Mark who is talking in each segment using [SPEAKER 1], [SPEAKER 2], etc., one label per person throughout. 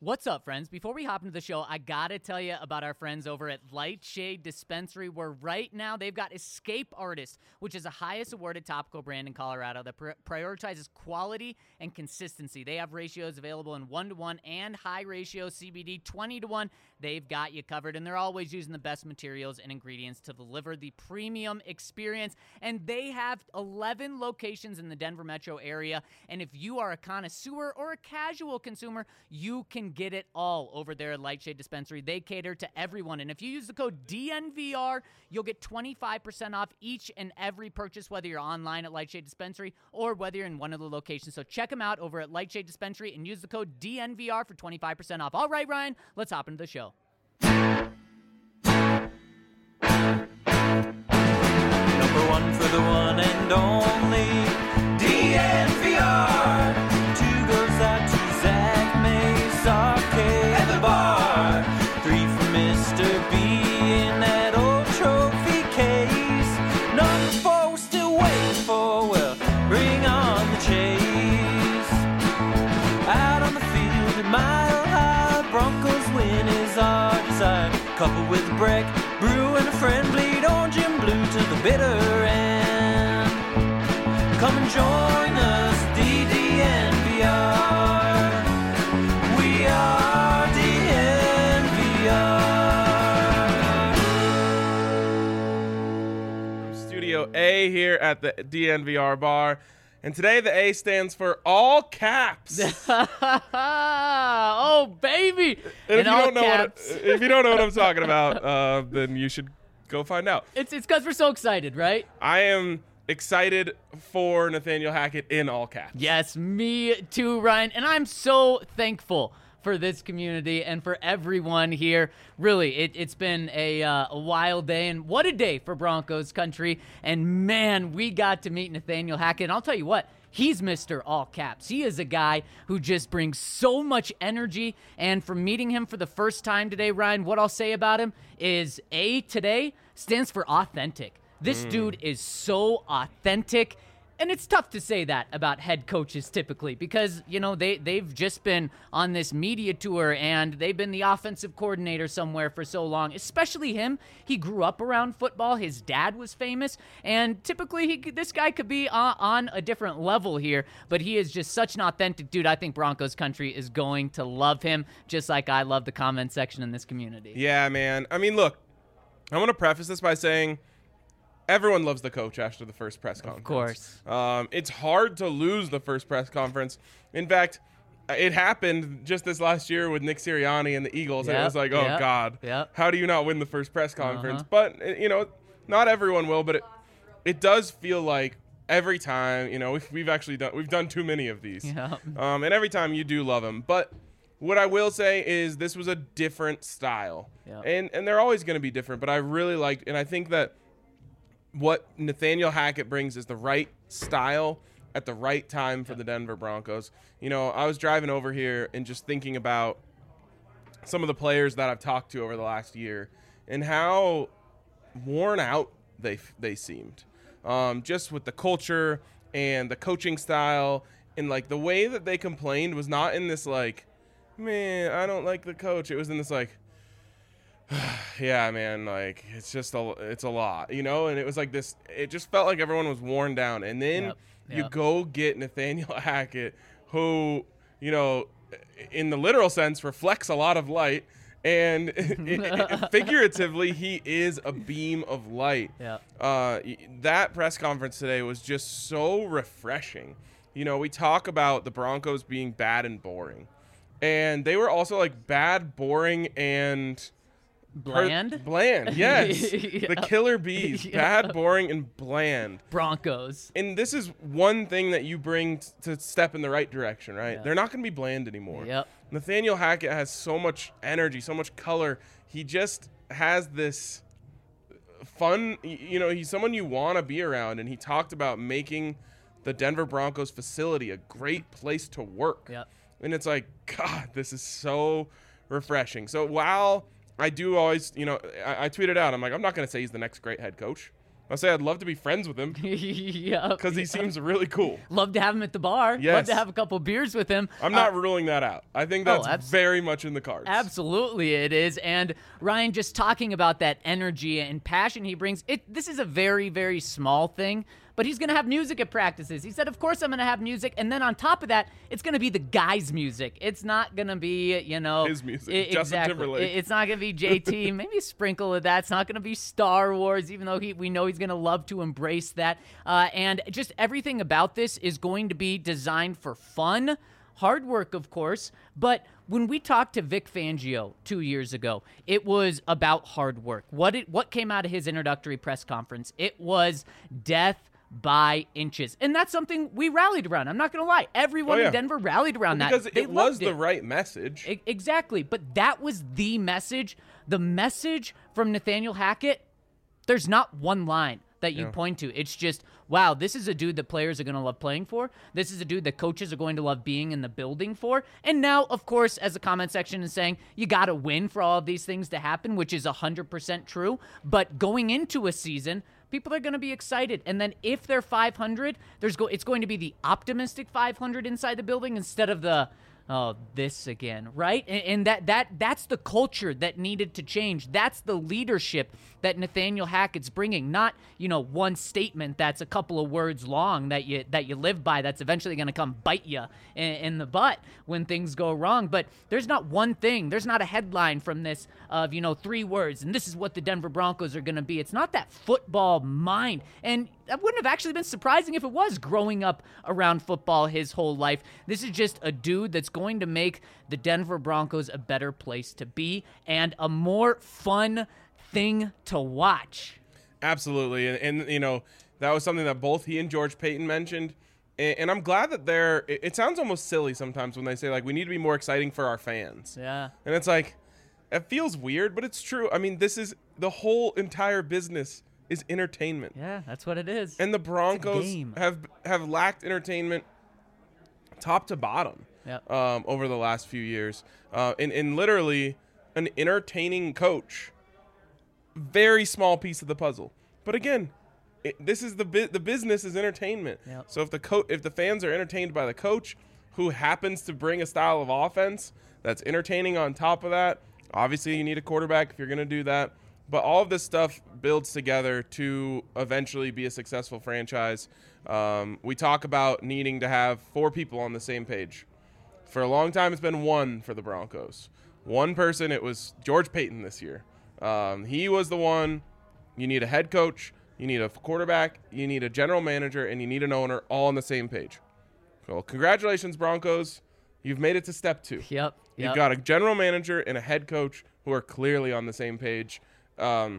[SPEAKER 1] What's up, friends? Before we hop into the show, I gotta tell you about our friends over at Lightshade Dispensary, where right now they've got Escape Artist, which is the highest awarded topical brand in Colorado that prioritizes quality and consistency. They have ratios available in 1-to-1 and high ratio CBD 20-to-1. They've got you covered, and they're always using the best materials and ingredients to deliver the premium experience. And they have 11 locations in the Denver metro area. And if you are a connoisseur or a casual consumer, you can get it all over there at Lightshade Dispensary. They cater to everyone. And if you use the code DNVR, you'll get 25% off each and every purchase, whether you're online at Lightshade Dispensary or whether you're in one of the locations. So check them out over at Lightshade Dispensary and use the code DNVR for 25% off. All right, Ryan, let's hop into the show.
[SPEAKER 2] Number one for the one and only DNVR. Two goes out to Zach Mace Arcade at the bar. Three for Mr. B in that old trophy case. Number four we're still waiting for. Well, bring on the chase. Out on the field at Mile High, Broncos win is our desire. Couple with a break, brew and a friend, bleed orange and blue to the bitter end. Come and join us, DNVR. We are DNVR.
[SPEAKER 3] Studio A here at the DNVR bar. And today the A stands for all caps.
[SPEAKER 1] Oh, baby.
[SPEAKER 3] And
[SPEAKER 1] In all caps.
[SPEAKER 3] if you don't know what I'm talking about, then you should go find out.
[SPEAKER 1] It's because we're so excited, right?
[SPEAKER 3] I am excited for Nathaniel Hackett in all caps.
[SPEAKER 1] Yes, me too, Ryan. And I'm so thankful for this community and for everyone here. Really, it's been a wild day, and what a day for Broncos country. And man, we got to meet Nathaniel Hackett. And I'll tell you what, he's Mr. All Caps. He is a guy who just brings so much energy. And from meeting him for the first time today, Ryan, what I'll say about him is A today stands for authentic. This dude is so authentic. And it's tough to say that about head coaches typically because, you know, they've just been on this media tour and they've been the offensive coordinator somewhere for so long, especially him. He grew up around football. His dad was famous. And typically this guy could be on a different level here, but he is just such an authentic dude. I think Broncos country is going to love him just like I love the comment section in this community.
[SPEAKER 3] Yeah, man. I mean, look, I want to preface this by saying everyone loves the coach after the first press conference.
[SPEAKER 1] Of course.
[SPEAKER 3] It's hard to lose the first press conference. In fact, it happened just this last year with Nick Sirianni and the Eagles. And it was like, oh, God, how do you not win the first press conference? But, you know, not everyone will, but it does feel like every time, you know, we've done too many of these.
[SPEAKER 1] Yeah.
[SPEAKER 3] And every time you do love them. But what I will say is this was a different style.
[SPEAKER 1] Yeah.
[SPEAKER 3] And they're always going to be different. But I really liked, and I think that what Nathaniel Hackett brings is the right style at the right time for the Denver Broncos. You know, I was driving over here and just thinking about some of the players that I've talked to over the last year and how worn out they seemed. Just with the culture and the coaching style and, like, the way that they complained was not in this, like, man, I don't like the coach. It was in this, like, yeah, man, like, it's a lot, you know? And it was like this, it just felt like everyone was worn down. And then you go get Nathaniel Hackett, who, you know, in the literal sense reflects a lot of light. And figuratively, he is a beam of light.
[SPEAKER 1] Yeah.
[SPEAKER 3] That press conference today was just so refreshing. You know, we talk about the Broncos being bad and boring. And they were also, like, bad, boring, and
[SPEAKER 1] Bland,
[SPEAKER 3] yes.
[SPEAKER 1] Yeah.
[SPEAKER 3] The killer bees.
[SPEAKER 1] Yeah.
[SPEAKER 3] Bad, boring, and bland.
[SPEAKER 1] Broncos.
[SPEAKER 3] And this is one thing that you bring to step in the right direction, right?
[SPEAKER 1] Yeah.
[SPEAKER 3] They're not going to be bland anymore.
[SPEAKER 1] Yep.
[SPEAKER 3] Nathaniel Hackett has so much energy, so much color. He just has this fun, you know, he's someone you want to be around. And he talked about making the Denver Broncos facility a great place to work.
[SPEAKER 1] Yep.
[SPEAKER 3] And it's like, God, this is so refreshing. So while I do always, you know, I tweeted out, I'm like, I'm not going to say he's the next great head coach. I'll say I'd love to be friends with him
[SPEAKER 1] Yep.
[SPEAKER 3] because he seems really cool.
[SPEAKER 1] Love to have him at the bar. Love
[SPEAKER 3] Yes.
[SPEAKER 1] to have a couple beers with him.
[SPEAKER 3] I'm not ruling that out. I think that's very much in the cards.
[SPEAKER 1] Absolutely it is. And Ryan, just talking about that energy and passion he brings, this is a very, very small thing, but he's going to have music at practices. He said, of course I'm going to have music. And then on top of that, it's going to be the guys' music. It's not going to be,
[SPEAKER 3] his music. Justin Timberlake.
[SPEAKER 1] It's not going to be JT. Maybe a sprinkle of that. It's not going to be Star Wars, even though we know he's going to love to embrace that. And just everything about this is going to be designed for fun. Hard work, of course, but when we talked to Vic Fangio 2 years ago, it was about hard work. What came out of his introductory press conference? It was death by inches. And that's something we rallied around. I'm not going to lie. Everyone in Denver rallied around that.
[SPEAKER 3] Because
[SPEAKER 1] They
[SPEAKER 3] it was
[SPEAKER 1] loved
[SPEAKER 3] the right message.
[SPEAKER 1] Exactly. But that was the message. The message from Nathaniel Hackett, there's not one line that you point to. It's just, wow, this is a dude that players are going to love playing for. This is a dude that coaches are going to love being in the building for. And now, of course, as the comment section is saying, you got to win for all of these things to happen, which is 100% true. But going into a season, people are going to be excited. And then if they're 500, it's going to be the optimistic 500 inside the building instead of the, oh, this again, right? And that's the culture that needed to change. That's the leadership that Nathaniel Hackett's bringing. Not, one statement that's a couple of words long that you live by that's eventually going to come bite you in the butt when things go wrong. But there's not one thing. There's not a headline from this of, 3 words, and this is what the Denver Broncos are going to be. It's not that football mind. And that wouldn't have actually been surprising if it was growing up around football his whole life. This is just a dude that's going to make the Denver Broncos a better place to be and a more fun thing to watch.
[SPEAKER 3] Absolutely. And that was something that both he and George Paton mentioned. And I'm glad that it sounds almost silly sometimes when they say, like, we need to be more exciting for our fans.
[SPEAKER 1] Yeah.
[SPEAKER 3] And it's like, it feels weird, but it's true. I mean, this is the whole entire business is entertainment.
[SPEAKER 1] Yeah, that's what it is.
[SPEAKER 3] And the Broncos have lacked entertainment top to bottom over the last few years. And literally an entertaining coach, very small piece of the puzzle. But again, this is the business is entertainment.
[SPEAKER 1] Yep.
[SPEAKER 3] So if the fans are entertained by the coach who happens to bring a style of offense that's entertaining on top of that, obviously you need a quarterback if you're going to do that. But all of this stuff builds together to eventually be a successful franchise. We talk about needing to have 4 people on the same page. For a long time, it's been 1 for the Broncos. One person, it was George Paton this year. He was the one. You need a head coach, you need a quarterback, you need a general manager, and you need an owner all on the same page. Well, congratulations, Broncos. You've made it to step 2.
[SPEAKER 1] Yep.
[SPEAKER 3] You've got a general manager and a head coach who are clearly on the same page. Do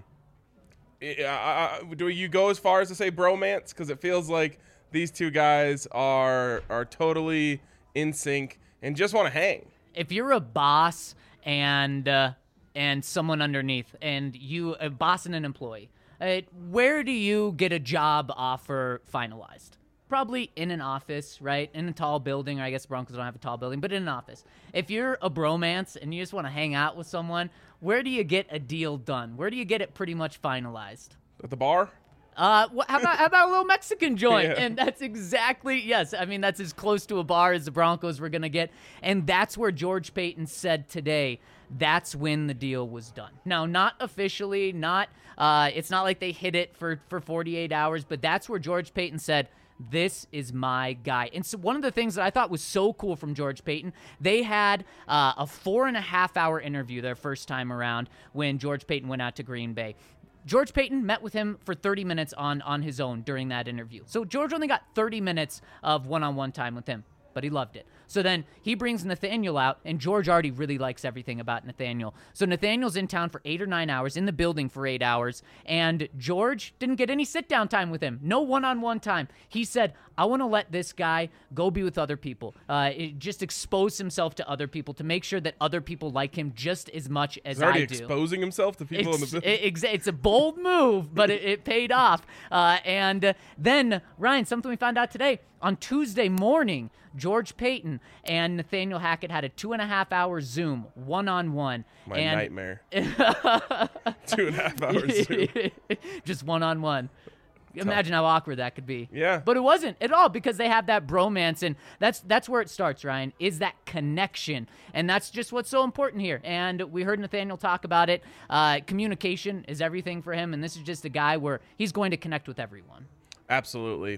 [SPEAKER 3] you go as far as to say bromance? Because it feels like these two guys are totally in sync and just want to hang.
[SPEAKER 1] If you're a boss and someone underneath, and a boss and an employee, where do you get a job offer finalized? Probably in an office, right? In a tall building, or I guess Broncos don't have a tall building, but in an office. If you're a bromance and you just want to hang out with someone, where do you get a deal done? Where do you get it pretty much finalized?
[SPEAKER 3] At the bar?
[SPEAKER 1] How about a little Mexican joint?
[SPEAKER 3] Yeah.
[SPEAKER 1] And that's exactly, yes, I mean, that's as close to a bar as the Broncos were going to get. And that's where George Paton said today, that's when the deal was done. Now, not officially, it's not like they hit it for 48 hours, but that's where George Paton said, this is my guy. And so one of the things that I thought was so cool from George Paton, they had a 4.5-hour interview their first time around when George Paton went out to Green Bay. George Paton met with him for 30 minutes on his own during that interview. So George only got 30 minutes of one-on-one time with him, but he loved it. So then he brings Nathaniel out, and George already really likes everything about Nathaniel. So Nathaniel's in town for 8 or 9 hours, in the building for 8 hours, and George didn't get any sit-down time with him. No one-on-one time. He said, I want to let this guy go be with other people. Just expose himself to other people to make sure that other people like him just as much as I do.
[SPEAKER 3] He's already exposing himself to people in the building.
[SPEAKER 1] It's a bold move, but it paid off. And then, Ryan, something we found out today, on Tuesday morning, George Paton and Nathaniel Hackett had a 2.5-hour Zoom, one-on-one.
[SPEAKER 3] Nightmare. 2.5 hours Zoom.
[SPEAKER 1] Just one-on-one. Imagine how awkward that could be.
[SPEAKER 3] Yeah.
[SPEAKER 1] But it wasn't at all because they have that bromance, and that's where it starts, Ryan, is that connection. And that's just what's so important here. And we heard Nathaniel talk about it. Communication is everything for him, and this is just a guy where he's going to connect with everyone.
[SPEAKER 3] Absolutely.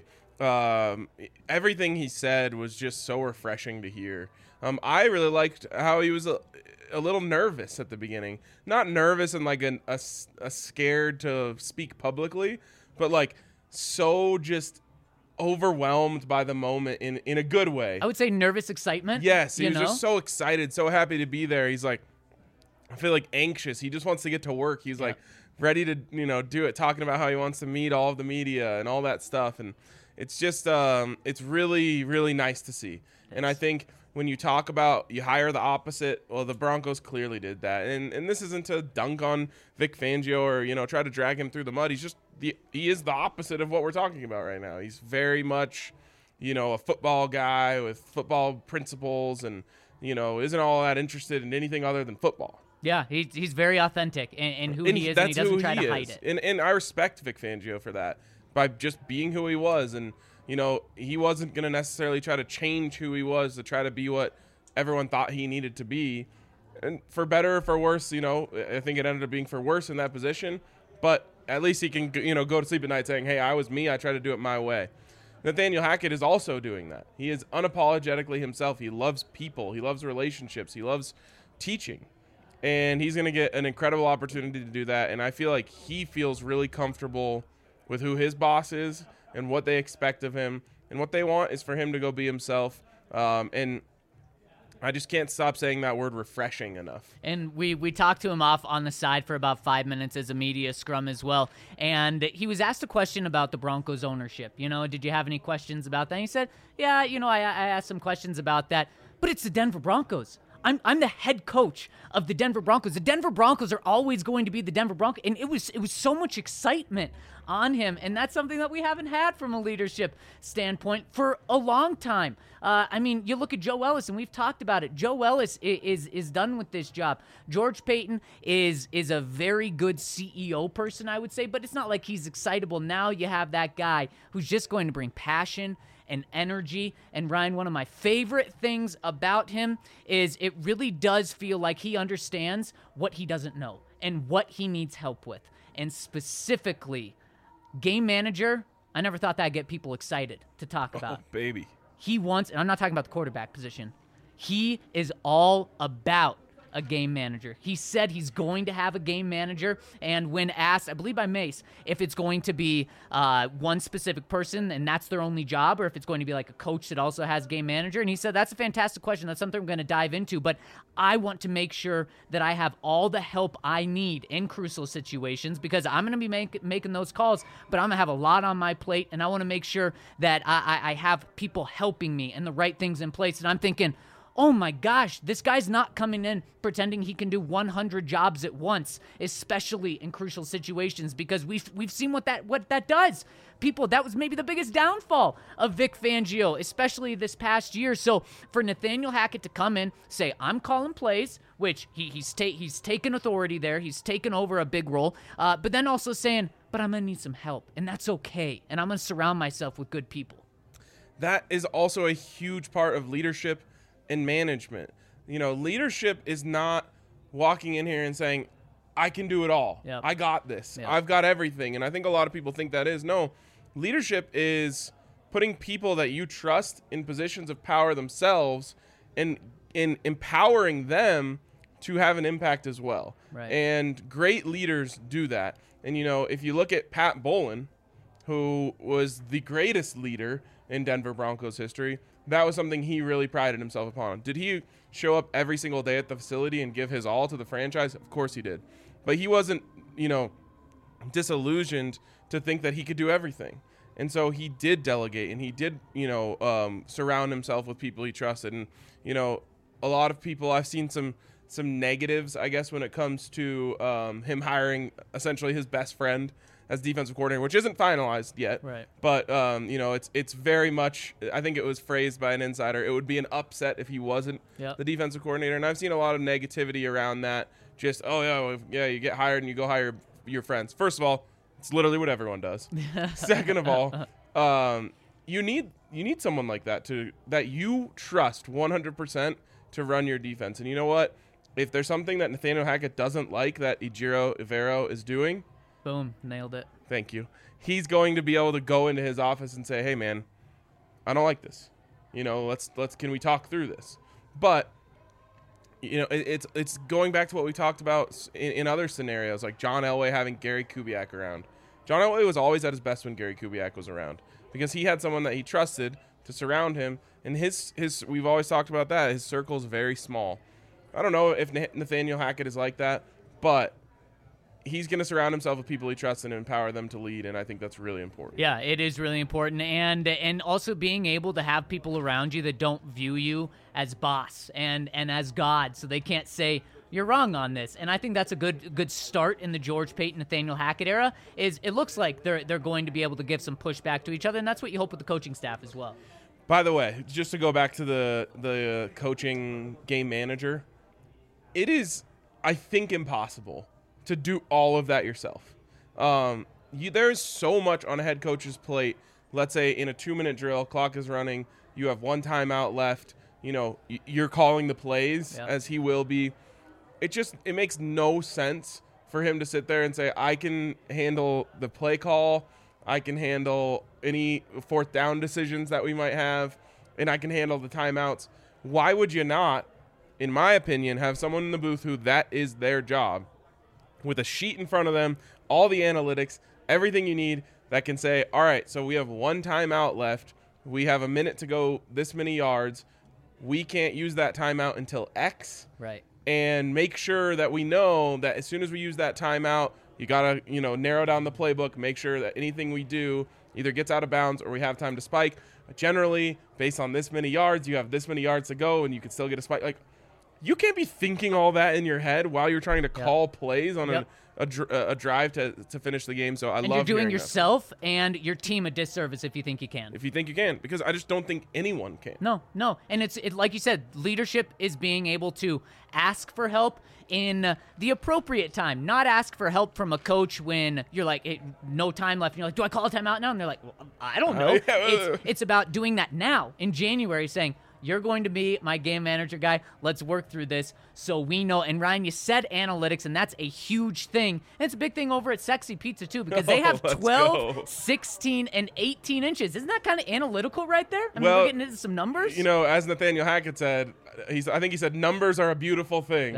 [SPEAKER 3] Everything he said was just so refreshing to hear. I really liked how he was a little nervous at the beginning. Not nervous and like a scared to speak publicly, but like so just overwhelmed by the moment in a good way.
[SPEAKER 1] I would say nervous excitement.
[SPEAKER 3] Yes, he
[SPEAKER 1] you
[SPEAKER 3] was
[SPEAKER 1] know?
[SPEAKER 3] just so excited, so happy to be there. He's like, I feel like anxious. He just wants to get to work. He's like ready to, do it, talking about how he wants to meet all of the media and all that stuff. And it's just, it's really, really nice to see. And I think when you talk about you hire the opposite, well, the Broncos clearly did that. And this isn't to dunk on Vic Fangio or, try to drag him through the mud. He's just, he is the opposite of what we're talking about right now. He's very much, a football guy with football principles and, isn't all that interested in anything other than football.
[SPEAKER 1] Yeah, he's very authentic in who he is, and he doesn't try to hide it.
[SPEAKER 3] And I respect Vic Fangio for that, by just being who he was. And, he wasn't going to necessarily try to change who he was to try to be what everyone thought he needed to be. And for better or for worse, I think it ended up being for worse in that position. But at least he can, go to sleep at night saying, hey, I was me. I tried to do it my way. Nathaniel Hackett is also doing that. He is unapologetically himself. He loves people. He loves relationships. He loves teaching. And he's going to get an incredible opportunity to do that. And I feel like he feels really comfortable with who his boss is and what they expect of him. And what they want is for him to go be himself. And I just can't stop saying that word refreshing enough.
[SPEAKER 1] And we talked to him off on the side for about 5 minutes as a media scrum as well. And he was asked a question about the Broncos ownership. Did you have any questions about that? And he said, yeah, I asked some questions about that. But it's the Denver Broncos. I'm the head coach of the Denver Broncos. The Denver Broncos are always going to be the Denver Broncos. And it was so much excitement on him. And that's something that we haven't had from a leadership standpoint for a long time. You look at Joe Ellis, and we've talked about it. Joe Ellis is done with this job. George Paton is a very good CEO person, I would say, but it's not like he's excitable. Now you have that guy who's just going to bring passion and energy. And Ryan, one of my favorite things about him is it really does feel like he understands what he doesn't know and what he needs help with. And specifically, game manager, I never thought that'd get people excited to talk about.
[SPEAKER 3] Oh, baby.
[SPEAKER 1] He wants, and I'm not talking about the quarterback position, he is all about a game manager. He said he's going to have a game manager, and when asked, I believe by Mace, if it's going to be one specific person and that's their only job, or if it's going to be like a coach that also has game manager, and he said that's a fantastic question. That's something I'm going to dive into, but I want to make sure that I have all the help I need in crucial situations because I'm going to be making those calls, but I'm going to have a lot on my plate, and I want to make sure that I have people helping me and the right things in place. And I'm thinking, oh my gosh, this guy's not coming in pretending he can do 100 jobs at once, especially in crucial situations, because we've seen what that does. People, that was maybe the biggest downfall of Vic Fangio, especially this past year. So for Nathaniel Hackett to come in, say, I'm calling plays, which he's taken authority there. He's taken over a big role, but then also saying, but I'm going to need some help, and that's okay, and I'm going to surround myself with good people.
[SPEAKER 3] That is also a huge part of leadership and management. Leadership is not walking in here and saying, I can do it all.
[SPEAKER 1] Yep.
[SPEAKER 3] I got this.
[SPEAKER 1] Yep.
[SPEAKER 3] I've got everything. And I think a lot of people think that is. No, leadership is putting people that you trust in positions of power themselves and in empowering them to have an impact as well.
[SPEAKER 1] Right.
[SPEAKER 3] And great leaders do that. And, if you look at Pat Bowlen, who was the greatest leader in Denver Broncos history, that was something he really prided himself upon. Did he show up every single day at the facility and give his all to the franchise? Of course he did. But he wasn't, disillusioned to think that he could do everything. And so he did delegate, and he did, surround himself with people he trusted. And, a lot of people, I've seen some negatives, I guess, when it comes to him hiring essentially his best friend as defensive coordinator, which isn't finalized yet.
[SPEAKER 1] Right.
[SPEAKER 3] But, it's very much, I think it was phrased by an insider, it would be an upset if he wasn't the defensive coordinator. And I've seen a lot of negativity around that. Just, you get hired and you go hire your friends. First of all, It's literally what everyone does. Second of all, you need someone like that that you trust 100% to run your defense. And you know what? If there's something that Nathaniel Hackett doesn't like that Ejiro Evero is doing,
[SPEAKER 1] Boom, nailed it.
[SPEAKER 3] thank you. He's going to be able to go into his office and say, "Hey, man, I don't like this. Can we talk through this?" But it's going back to what we talked about in other scenarios, like John Elway having Gary Kubiak around. John Elway was always at his best when Gary Kubiak was around because he had someone that he trusted to surround him. And his we've always talked about that. His circle is very small. I don't know if Nathaniel Hackett is like that, but he's going to surround himself with people he trusts and empower them to lead, and I think that's really important.
[SPEAKER 1] Yeah, it is really important, and also being able to have people around you that don't view you as boss and as God, so they can't say you're wrong on this. And I think that's a good start in the George Paton, Nathaniel Hackett era. Is it looks like they're going to be able to give some pushback to each other, and that's what you hope with the coaching staff as well.
[SPEAKER 3] By the way, just to go back to the coaching game manager, it is, I think, impossible to do all of that yourself. There's so much on a head coach's plate. Let's say in a 2-minute drill, clock is running, you have one timeout left, you're calling the plays as he will be. It makes no sense for him to sit there and say, I can handle the play call, I can handle any fourth down decisions that we might have, and I can handle the timeouts. Why would you not, in my opinion, have someone in the booth who that is their job, with a sheet in front of them, all the analytics, everything you need, that can say, all right, so we have one timeout left. We have a minute to go this many yards. We can't use that timeout until X.
[SPEAKER 1] Right.
[SPEAKER 3] And make sure that we know that as soon as we use that timeout, you got to, narrow down the playbook, make sure that anything we do either gets out of bounds or we have time to spike. Generally, based on this many yards, you have this many yards to go and you can still get a spike. Like, you can't be thinking all that in your head while you're trying to call plays on a drive to finish the game. So
[SPEAKER 1] and
[SPEAKER 3] love
[SPEAKER 1] you're doing
[SPEAKER 3] hearing
[SPEAKER 1] yourself and your team a disservice if you think you can.
[SPEAKER 3] If you think you can, because I just don't think anyone can.
[SPEAKER 1] No. And it's like you said, leadership is being able to ask for help in the appropriate time, not ask for help from a coach when you're like, no time left. And you're like, do I call a timeout now? And they're like, well, I don't know. It's about doing that now in January, saying, you're going to be my game manager guy. Let's work through this so we know. And Ryan, you said analytics, and that's a huge thing. And it's a big thing over at Sexy Pizza, too, because they have 12, 16, and 18 inches. Isn't that kind of analytical right there? I mean, we're getting into some numbers.
[SPEAKER 3] As Nathaniel Hackett said, I think he said numbers are a beautiful thing.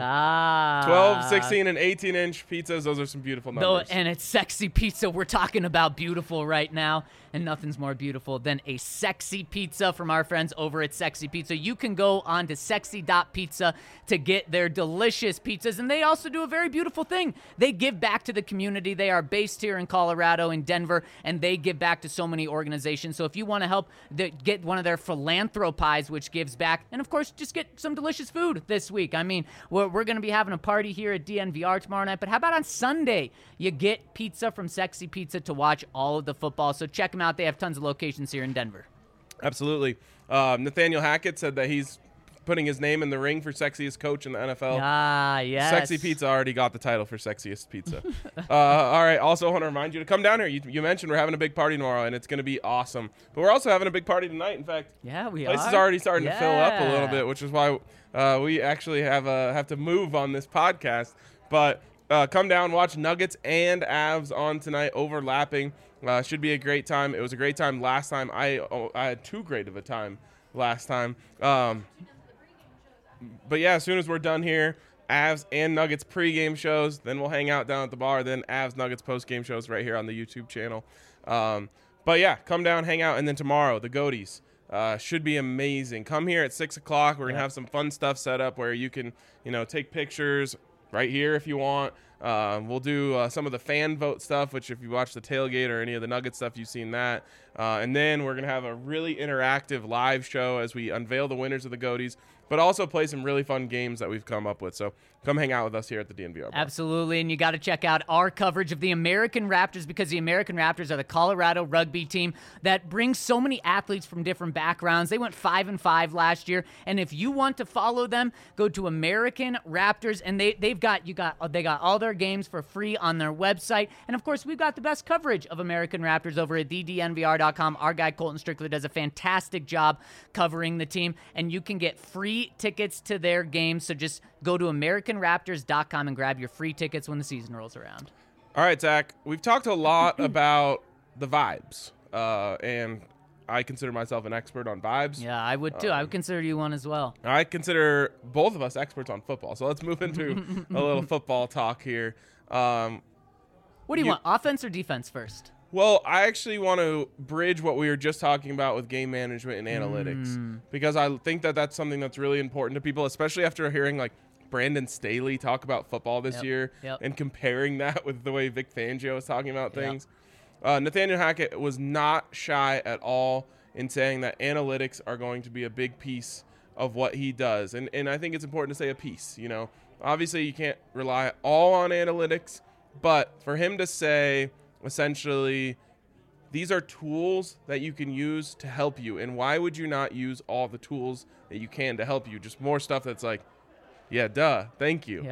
[SPEAKER 1] 12,
[SPEAKER 3] 16, and 18-inch pizzas, those are some beautiful numbers.
[SPEAKER 1] And it's Sexy Pizza. We're talking about beautiful right now, and nothing's more beautiful than a sexy pizza from our friends over at Sexy Pizza. You can go on to sexy.pizza to get their delicious pizzas, and they also do a very beautiful thing. They give back to the community. They are based here in Colorado, in Denver, and they give back to so many organizations. So if you want to help get one of their philanthropies, which gives back, and of course, just get some delicious food this week. I mean, we're going to be having a party here at DNVR tomorrow night, but how about on Sunday? You get pizza from Sexy Pizza to watch all of the football. So check them out. They have tons of locations here in Denver.
[SPEAKER 3] Absolutely. Nathaniel Hackett said that he's putting his name in the ring for sexiest coach in the NFL.
[SPEAKER 1] Yes.
[SPEAKER 3] Sexy Pizza already got the title for sexiest pizza. All right. Also want to remind you to come down here. You mentioned we're having a big party tomorrow, and it's going to be awesome. But we're also having a big party tonight. In fact,
[SPEAKER 1] we
[SPEAKER 3] place
[SPEAKER 1] are.
[SPEAKER 3] is already starting to fill up a little bit, which is why we actually have to move on this podcast. But come down, watch Nuggets and Avs on tonight, overlapping. Should be a great time. It was a great time last time. I had too great of a time last time. But yeah, as soon as we're done here, Avs and Nuggets pregame shows, then we'll hang out down at the bar, then Avs Nuggets postgame shows right here on the YouTube channel. But yeah, come down, hang out, and then tomorrow, the Goaties. Should be amazing. Come here at 6 o'clock. We're going to have some fun stuff set up where you can, take pictures right here if you want. We'll do some of the fan vote stuff, which if you watch the tailgate or any of the Nugget stuff, you've seen that. And then we're going to have a really interactive live show as we unveil the winners of the Goaties but also play some really fun games that we've come up with. So come hang out with us here at the DNVR bar.
[SPEAKER 1] Absolutely, and you got to check out our coverage of the American Raptors, because the American Raptors are the Colorado rugby team that brings so many athletes from different backgrounds. They went 5-5 last year, and if you want to follow them, go to American Raptors, and they got all their games for free on their website. And of course, we've got the best coverage of American Raptors over at thednvr.com. Our guy Colton Strickler does a fantastic job covering the team, and you can get free tickets to their games. So just go to AmericanRaptors.com and grab your free tickets when the season rolls around.
[SPEAKER 3] All right, Zach, we've talked a lot about the vibes, and I consider myself an expert on vibes.
[SPEAKER 1] Yeah, I would too. I would consider you one as well.
[SPEAKER 3] I consider both of us experts on football. So let's move into a little football talk here.
[SPEAKER 1] What do you want, offense or defense first?
[SPEAKER 3] Well, I actually want to bridge what we were just talking about with game management and analytics, because I think that that's something that's really important to people, especially after hearing like Brandon Staley talk about football this year and comparing that with the way Vic Fangio is talking about things. Nathaniel Hackett was not shy at all in saying that analytics are going to be a big piece of what he does. And I think it's important to say a piece, you know. Obviously, you can't rely all on analytics, but for him to say essentially these are tools that you can use to help you, and why would you not use all the tools that you can to help you? Just more stuff that's like, yeah, duh, thank you.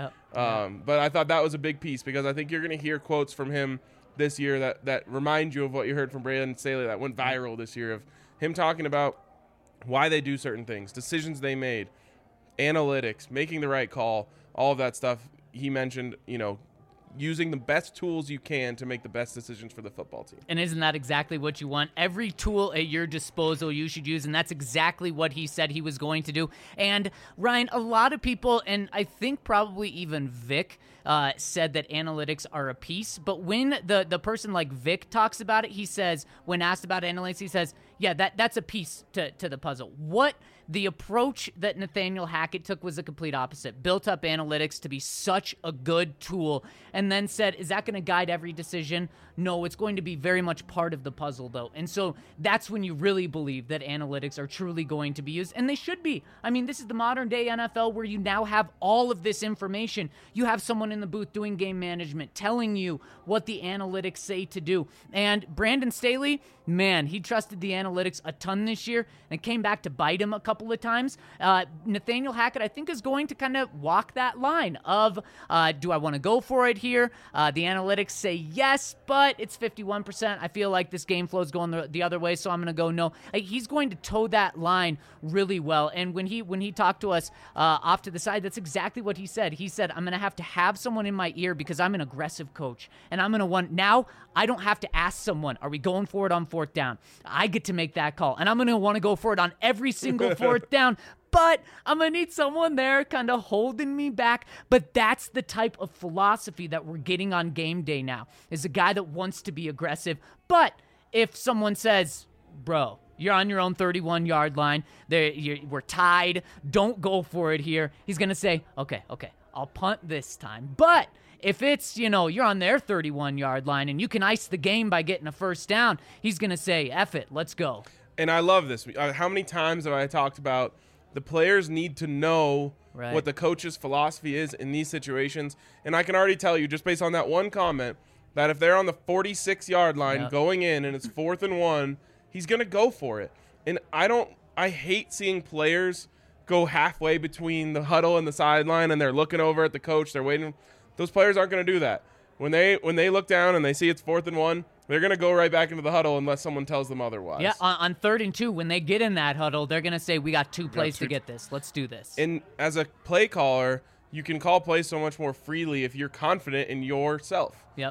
[SPEAKER 3] But I thought that was a big piece, because I think you're going to hear quotes from him this year that remind you of what you heard from Brandon Staley that went viral this year, of him talking about why they do certain things, decisions they made, analytics, making the right call, all of that stuff. He mentioned, you know, using the best tools you can to make the best decisions for the football team.
[SPEAKER 1] And isn't that exactly what you want? Every tool at your disposal you should use, and that's exactly what he said he was going to do. And Ryan, a lot of people, and I think probably even Vic, said that analytics are a piece. But when the person like Vic talks about it, he says, when asked about analytics, he says, yeah, that's a piece to the puzzle. What the approach that Nathaniel Hackett took was the complete opposite. Built up analytics to be such a good tool, and then said, is that going to guide every decision? No, it's going to be very much part of the puzzle, though. And so that's when you really believe that analytics are truly going to be used, and they should be. I mean, this is the modern day NFL where you now have all of this information. You have someone in the booth doing game management, telling you what the analytics say to do. And Brandon Staley, man, he trusted the analytics a ton this year, and it came back to bite him a couple of times. Nathaniel Hackett, I think, is going to kind of walk that line of, do I want to go for it here? The analytics say yes, but it's 51%. I feel like this game flow is going the other way, so I'm going to go no. He's going to toe that line really well. And when he talked to us off to the side, that's exactly what he said. He said, I'm going to have someone in my ear because I'm an aggressive coach, and I'm going to want, now I don't have to ask someone, are we going for it on fourth down? I get to make that call, and I'm going to want to go for it on every single fourth down, but I'm going to need someone there kind of holding me back. But that's the type of philosophy that we're getting on game day now, is a guy that wants to be aggressive. But if someone says, bro, you're on your own 31-yard line, we're tied, don't go for it here, he's going to say, okay, I'll punt this time. But if it's, you're on their 31-yard line and you can ice the game by getting a first down, he's going to say, F it, let's go.
[SPEAKER 3] And I love this. How many times have I talked about the players need to know what the coach's philosophy is in these situations? And I can already tell you, just based on that one comment, that if they're on the 46-yard line going in and it's 4th and 1, he's going to go for it. And I hate seeing players go halfway between the huddle and the sideline and they're looking over at the coach, they're waiting. Those players aren't going to do that. When they look down and they see it's 4th and 1, they're going to go right back into the huddle unless someone tells them otherwise.
[SPEAKER 1] Yeah, on 3rd and 2, when they get in that huddle, they're going to say, we got 2 plays to get this. Let's do this.
[SPEAKER 3] And as a play caller, you can call plays so much more freely if you're confident in yourself.
[SPEAKER 1] Yep.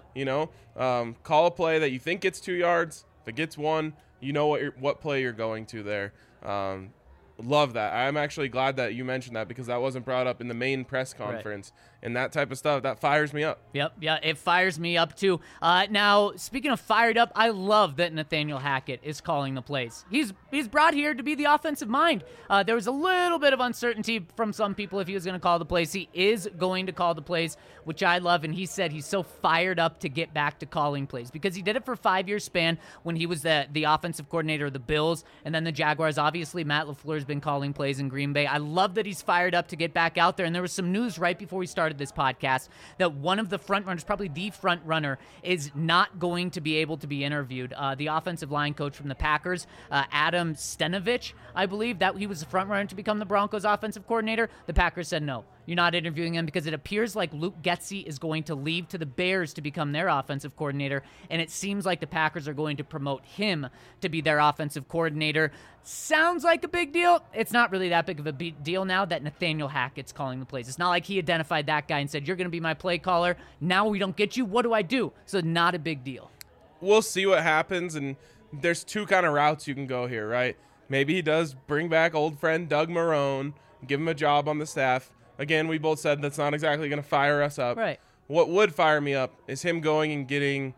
[SPEAKER 3] Call a play that you think gets 2 yards. If it gets 1, you know what play you're going to there. Love that. I'm actually glad that you mentioned that because that wasn't brought up in the main press conference.
[SPEAKER 1] Right.
[SPEAKER 3] and that type of stuff, that fires me up.
[SPEAKER 1] Yep, yeah, it fires me up too. Now, speaking of fired up, I love that Nathaniel Hackett is calling the plays. He's brought here to be the offensive mind. There was a little bit of uncertainty from some people if he was going to call the plays. He is going to call the plays, which I love, and he said he's so fired up to get back to calling plays because he did it for a 5-year span when he was the offensive coordinator of the Bills and then the Jaguars. Obviously, Matt LaFleur has been calling plays in Green Bay. I love that he's fired up to get back out there, and there was some news right before we started this podcast that one of the front runners, probably the front runner, is not going to be able to be interviewed. The offensive line coach from the Packers, Adam Stenovich, I believe that he was the front runner to become the Broncos offensive coordinator. The Packers said no. You're not interviewing him because it appears like Luke Getsy is going to leave to the Bears to become their offensive coordinator, and it seems like the Packers are going to promote him to be their offensive coordinator. Sounds like a big deal. It's not really that big of a big deal now that Nathaniel Hackett's calling the plays. It's not like he identified that guy and said, you're going to be my play caller. Now we don't get you. What do I do? So not a big deal.
[SPEAKER 3] We'll see what happens, and there's two kind of routes you can go here, right? Maybe he does bring back old friend Doug Marrone, give him a job on the staff. Again, we both said that's not exactly going to fire us up.
[SPEAKER 1] Right.
[SPEAKER 3] What would fire me up is him going and getting,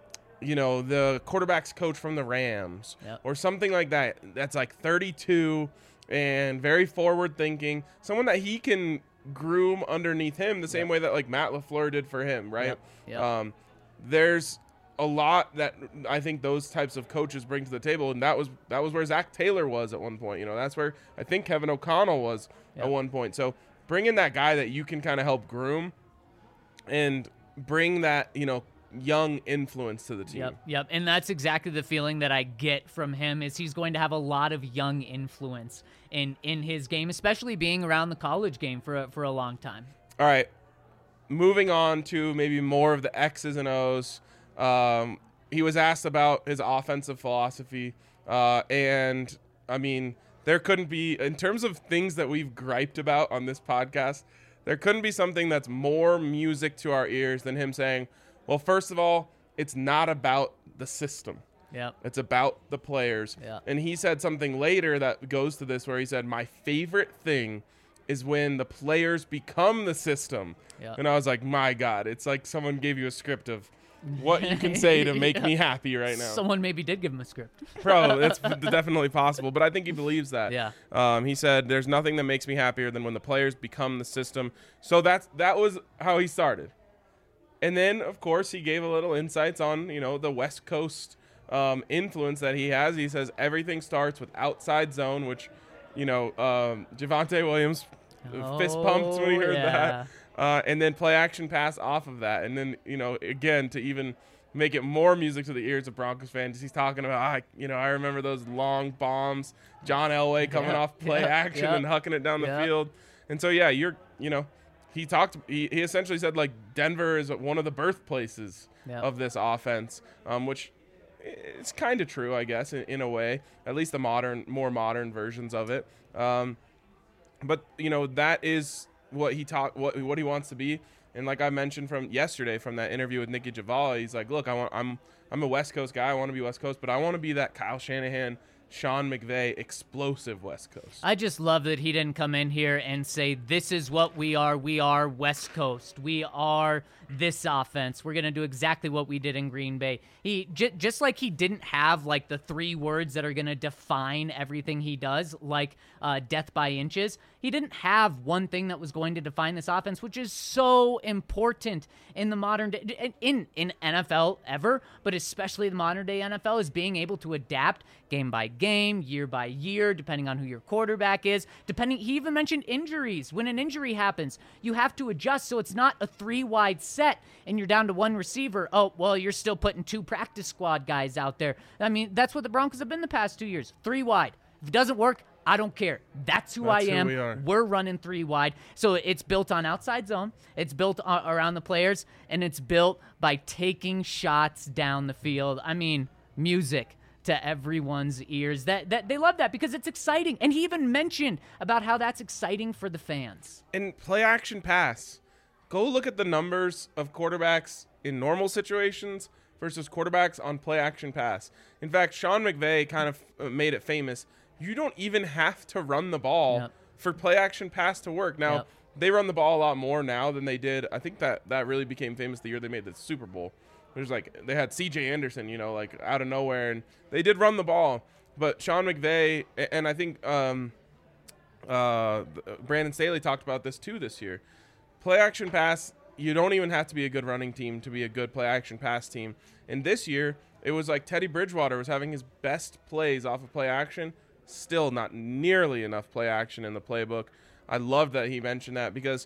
[SPEAKER 3] the quarterback's coach from the Rams or something like that. That's like 32 and very forward thinking. Someone that he can groom underneath him the same way that like Matt LaFleur did for him, right?
[SPEAKER 1] Yep.
[SPEAKER 3] There's a lot that I think those types of coaches bring to the table, and that was where Zach Taylor was at one point. That's where I think Kevin O'Connell was at one point. So bring in that guy that you can kind of help groom and bring that, young influence to the team.
[SPEAKER 1] Yep. And that's exactly the feeling that I get from him is he's going to have a lot of young influence in his game, especially being around the college game for a long time.
[SPEAKER 3] All right. Moving on to maybe more of the X's and O's. He was asked about his offensive philosophy. And I mean, there couldn't be, in terms of things that we've griped about on this podcast, there couldn't be something that's more music to our ears than him saying, well, first of all, it's not about the system.
[SPEAKER 1] Yeah.
[SPEAKER 3] It's about the players.
[SPEAKER 1] Yeah.
[SPEAKER 3] And he said something later that goes to this where he said, my favorite thing is when the players become the system.
[SPEAKER 1] Yeah.
[SPEAKER 3] And I was like, my God, it's like someone gave you a script of what you can say to make me happy right now.
[SPEAKER 1] Someone maybe did give him a script.
[SPEAKER 3] Bro, that's definitely possible, but I think he believes that.
[SPEAKER 1] Yeah.
[SPEAKER 3] He said, there's nothing that makes me happier than when the players become the system. So that was how he started. And then, of course, he gave a little insights on, the West Coast influence that he has. He says everything starts with outside zone, which, Javonte Williams fist pumped when he heard that. And then play action pass off of that. And then, again, to even make it more music to the ears of Broncos fans, he's talking about, I remember those long bombs, John Elway coming off play action and hucking it down the field. And so, yeah, he essentially said, like, Denver is one of the birthplaces of this offense, which is kind of true, I guess, in a way, at least the more modern versions of it. But, that is what he wants to be. And like I mentioned from yesterday from that interview with Nicky Jhabvala, he's like, look, I'm a West Coast guy. I want to be West Coast, but I want to be that Kyle Shanahan, Sean McVay, explosive West Coast.
[SPEAKER 1] I just love that he didn't come in here and say, this is what we are. We are West Coast. We are this offense. We're going to do exactly what we did in Green Bay. He just like he didn't have like the 3 words that are going to define everything he does, like death by inches. He didn't have one thing that was going to define this offense, which is so important in the modern day, in NFL ever, but especially the modern day NFL, is being able to adapt game by game, year by year, depending on who your quarterback is. He even mentioned injuries. When an injury happens, you have to adjust so it's not a 3-wide set and you're down to 1 receiver. Oh, well, you're still putting 2 practice squad guys out there. I mean, that's what the Broncos have been the past 2 years. 3 wide. If it doesn't work, I don't care. That's who I am. We're running 3 wide. So it's built on outside zone. It's built around the players, and it's built by taking shots down the field. I mean, music to everyone's ears. That they love that because it's exciting. And he even mentioned about how that's exciting for the fans.
[SPEAKER 3] And play action pass. Go look at the numbers of quarterbacks in normal situations versus quarterbacks on play action pass. In fact, Sean McVay kind of made it famous. You don't even have to run the ball for play action pass to work. Now, they run the ball a lot more now than they did. I think that really became famous the year they made the Super Bowl. It was like they had C.J. Anderson, like out of nowhere, and they did run the ball. But Sean McVay, and I think Brandon Staley talked about this too this year. Play action pass, you don't even have to be a good running team to be a good play action pass team. And this year, it was like Teddy Bridgewater was having his best plays off of play action. Still not nearly enough play action in the playbook. I love that he mentioned that because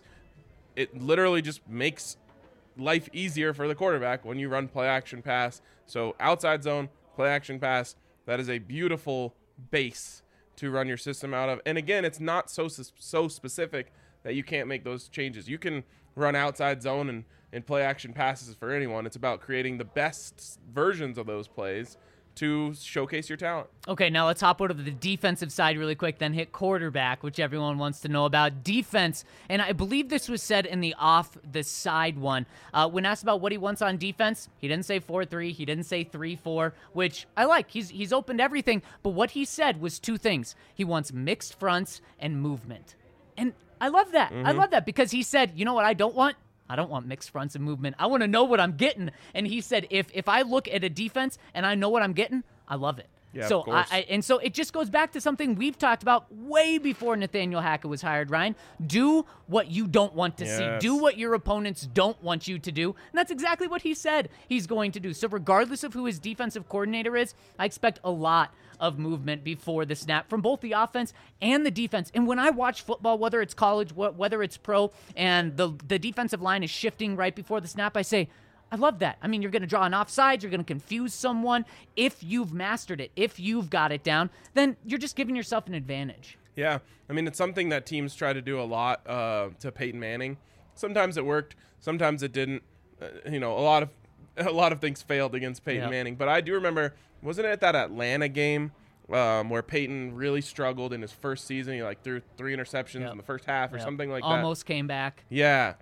[SPEAKER 3] it literally just makes life easier for the quarterback when you run play action pass. So outside zone, play action pass, that is a beautiful base to run your system out of. And again, it's not so specific that you can't make those changes. You can run outside zone and play action passes for anyone. It's about creating the best versions of those plays to showcase your talent.
[SPEAKER 1] Okay, now let's hop over to the defensive side really quick, then hit quarterback, which everyone wants to know about. Defense, and I believe this was said in the off the side one. When asked about what he wants on defense, he didn't say 4-3, he didn't say 3-4, which I like. He's opened everything, but what he said was two things. He wants mixed fronts and movement. And I love that. I love that because he said, you know what I don't want? I don't want mixed fronts and movement. I want to know what I'm getting. And he said, if I look at a defense and I know what I'm getting, I love it.
[SPEAKER 3] Yeah,
[SPEAKER 1] so
[SPEAKER 3] of course.
[SPEAKER 1] And so it just goes back to something we've talked about way before Nathaniel Hackett was hired, Ryan. Do what you don't want to see. Do what your opponents don't want you to do. And that's exactly what he said he's going to do. So regardless of who his defensive coordinator is, I expect a lot of movement before the snap from both the offense and the defense. And when I watch football, whether it's college, whether it's pro, and the defensive line is shifting right before the snap, I say, I love that. I mean, you're going to draw an offside. You're going to confuse someone. If you've mastered it, if you've got it down, then you're just giving yourself an advantage.
[SPEAKER 3] Yeah. I mean, it's something that teams try to do a lot to Peyton Manning. Sometimes it worked. Sometimes it didn't. A lot of things failed against Peyton Manning. But I do remember, wasn't it that Atlanta game where Peyton really struggled in his first season? He threw 3 interceptions in the first half or something like that.
[SPEAKER 1] Almost came back.
[SPEAKER 3] Yeah.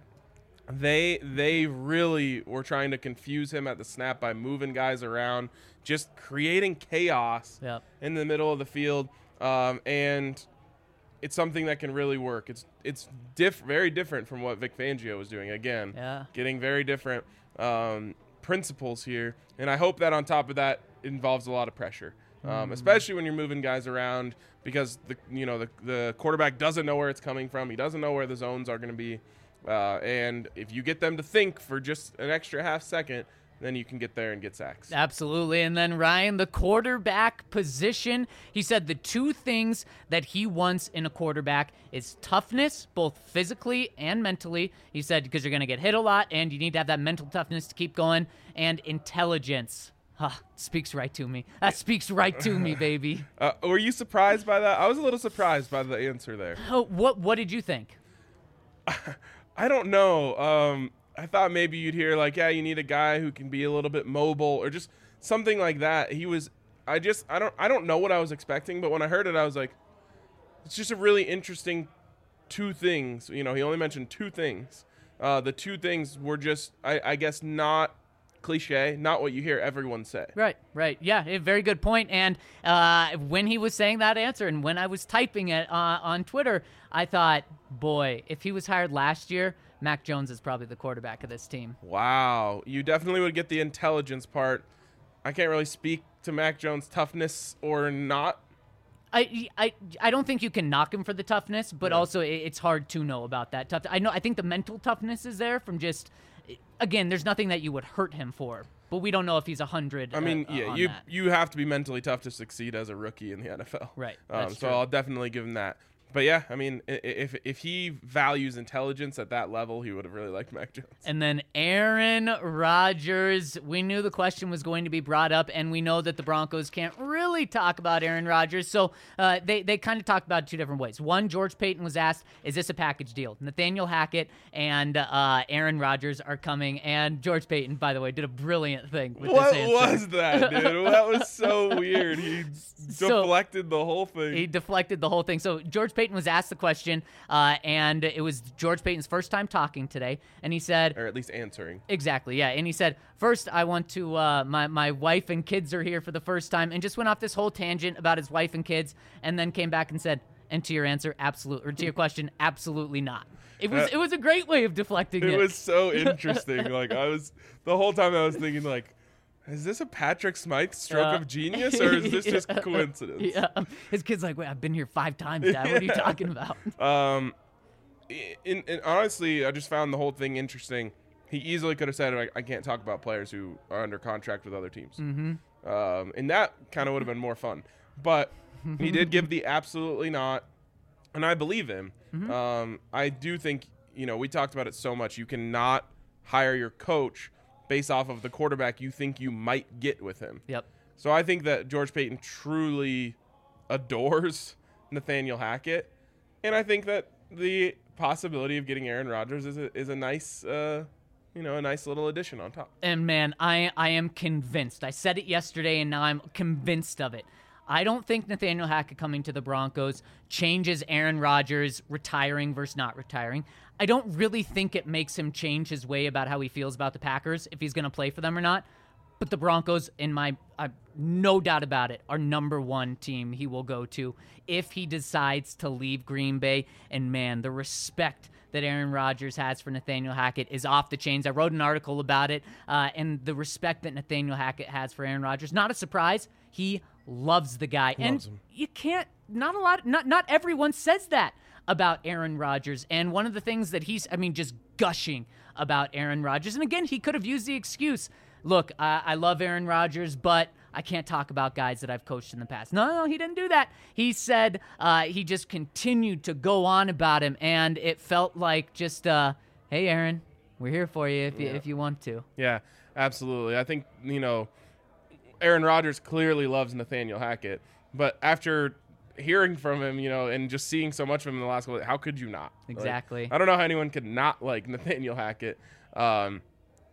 [SPEAKER 3] They really were trying to confuse him at the snap by moving guys around, just creating chaos in the middle of the field. And it's something that can really work. It's very different from what Vic Fangio was doing. Again, getting very different principles here. And I hope that on top of that it involves a lot of pressure, especially when you're moving guys around because the quarterback doesn't know where it's coming from. He doesn't know where the zones are going to be. And if you get them to think for just an extra half second, then you can get there and get sacks.
[SPEAKER 1] Absolutely. And then, Ryan, the quarterback position, he said the two things that he wants in a quarterback is toughness, both physically and mentally. He said because you're going to get hit a lot, and you need to have that mental toughness to keep going, and intelligence. Speaks right to me. That speaks right to me, baby.
[SPEAKER 3] Were you surprised by that? I was a little surprised by the answer there.
[SPEAKER 1] What did you think?
[SPEAKER 3] I don't know. I thought maybe you'd hear you need a guy who can be a little bit mobile or just something like that. I don't know what I was expecting, but when I heard it, I was like, it's just a really interesting two things. He only mentioned two things. The two things were just, I guess, not cliche, not what you hear everyone say.
[SPEAKER 1] Right. Yeah, a very good point. And when he was saying that answer and when I was typing it on Twitter, I thought, boy, if he was hired last year, Mac Jones is probably the quarterback of this team.
[SPEAKER 3] Wow. You definitely would get the intelligence part. I can't really speak to Mac Jones' toughness or not.
[SPEAKER 1] I don't think you can knock him for the toughness, but also it's hard to know about that tough. I think the mental toughness is there from just, again, there's nothing that you would hurt him for, but we don't know if he's 100.
[SPEAKER 3] I mean, you have to be mentally tough to succeed as a rookie in the NFL.
[SPEAKER 1] Right.
[SPEAKER 3] So true. I'll definitely give him that. But yeah, I mean, if he values intelligence at that level, he would have really liked Mac Jones.
[SPEAKER 1] And then Aaron Rodgers. We knew the question was going to be brought up, and we know that the Broncos can't really talk about Aaron Rodgers. So they kind of talked about it two different ways. One, George Paton was asked, is this a package deal? Nathaniel Hackett and Aaron Rodgers are coming. And George Paton, by the way, did a brilliant thing with this answer.
[SPEAKER 3] What was that, dude? That was so weird. He deflected the whole thing.
[SPEAKER 1] He deflected the whole thing. So George Paton was asked the question, and it was George Paton's first time talking today, and he said,
[SPEAKER 3] or at least answering.
[SPEAKER 1] Exactly, yeah. And he said, first, I want to, my wife and kids are here for the first time, and just went off this whole tangent about his wife and kids, and then came back and said, and to your answer, absolutely, or to your question, absolutely not. It was a great way of deflecting it.
[SPEAKER 3] It was so interesting. Like the whole time I was thinking like, is this a Patrick Smythe stroke of genius, or is this just coincidence?
[SPEAKER 1] Yeah. His kid's like, wait, I've been here 5 times, Dad. What are you talking about?
[SPEAKER 3] Honestly, I just found the whole thing interesting. He easily could have said, I can't talk about players who are under contract with other teams. Mm-hmm. And that kind of would have been more fun. But he did give the absolutely not, and I believe him. Mm-hmm. I do think, we talked about it so much. You cannot hire your coach based off of the quarterback you think you might get with him.
[SPEAKER 1] Yep.
[SPEAKER 3] So I think that George Paton truly adores Nathaniel Hackett, and I think that the possibility of getting Aaron Rodgers is a nice, a nice little addition on top.
[SPEAKER 1] And man, I am convinced. I said it yesterday, and now I'm convinced of it. I don't think Nathaniel Hackett coming to the Broncos changes Aaron Rodgers retiring versus not retiring. I don't really think it makes him change his way about how he feels about the Packers, if he's going to play for them or not. But the Broncos, no doubt about it, are number 1 team he will go to if he decides to leave Green Bay. And man, the respect that Aaron Rodgers has for Nathaniel Hackett is off the chains. I wrote an article about it, and the respect that Nathaniel Hackett has for Aaron Rodgers, not a surprise. He loves the guy.
[SPEAKER 3] Loves him.
[SPEAKER 1] You can't, not everyone says that about Aaron Rodgers. And one of the things that he's, just gushing about Aaron Rodgers. And again, he could have used the excuse, look, I love Aaron Rodgers, but I can't talk about guys that I've coached in the past. No, he didn't do that. He said he just continued to go on about him, and it felt like just, hey, Aaron, we're here for you if you want to.
[SPEAKER 3] Yeah, absolutely. I think, Aaron Rodgers clearly loves Nathaniel Hackett, but after hearing from him, and just seeing so much of him in the last couple, how could you not?
[SPEAKER 1] Exactly.
[SPEAKER 3] I don't know how anyone could not like Nathaniel Hackett. And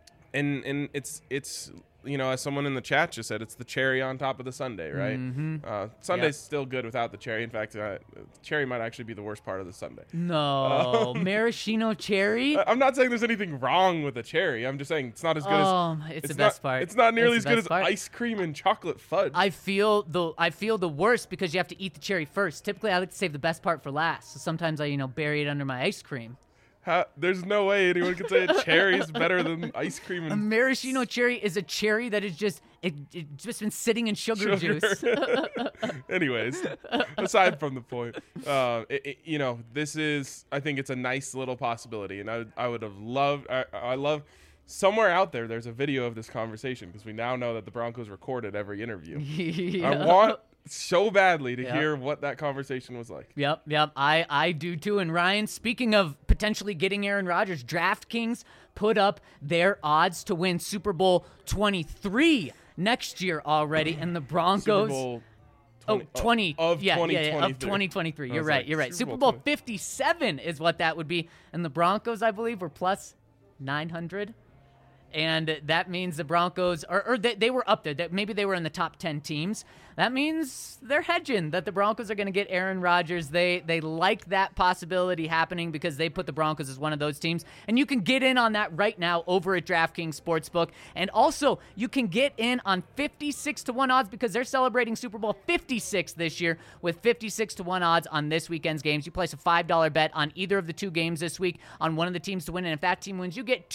[SPEAKER 3] it's as someone in the chat just said, it's the cherry on top of the sundae, right? Mm-hmm. Sunday's still good without the cherry. In fact, cherry might actually be the worst part of the sundae.
[SPEAKER 1] No, maraschino cherry?
[SPEAKER 3] I'm not saying there's anything wrong with a cherry. I'm just saying it's not as good as...
[SPEAKER 1] It's the best part.
[SPEAKER 3] It's not nearly as good as ice cream and chocolate fudge.
[SPEAKER 1] I feel the worst because you have to eat the cherry first. Typically, I like to save the best part for last. So sometimes I, bury it under my ice cream.
[SPEAKER 3] There's no way anyone could say a cherry is better than ice cream.
[SPEAKER 1] A maraschino cherry is a cherry that is just been sitting in sugar juice.
[SPEAKER 3] Anyways, aside from the point, this is, I think it's a nice little possibility, and I would have loved. I love somewhere out there. There's a video of this conversation because we now know that the Broncos recorded every interview.
[SPEAKER 1] Yeah.
[SPEAKER 3] I want so badly to hear what that conversation was like.
[SPEAKER 1] Yep. I do too. And Ryan, speaking of potentially getting Aaron Rodgers, DraftKings put up their odds to win Super Bowl 23 next year already, and the Broncos.
[SPEAKER 3] Super Bowl
[SPEAKER 1] 2023. You're right. Super Bowl 57 is what that would be, and the Broncos, I believe, were plus 900. And that means the Broncos, they were up there. Maybe they were in the top 10 teams. That means they're hedging that the Broncos are going to get Aaron Rodgers. They like that possibility happening because they put the Broncos as one of those teams. And you can get in on that right now over at DraftKings Sportsbook. And also, you can get in on 56-1 odds because they're celebrating Super Bowl 56 this year with 56-1 odds on this weekend's games. You place a $5 bet on either of the 2 games this week on one of the teams to win. And if that team wins, you get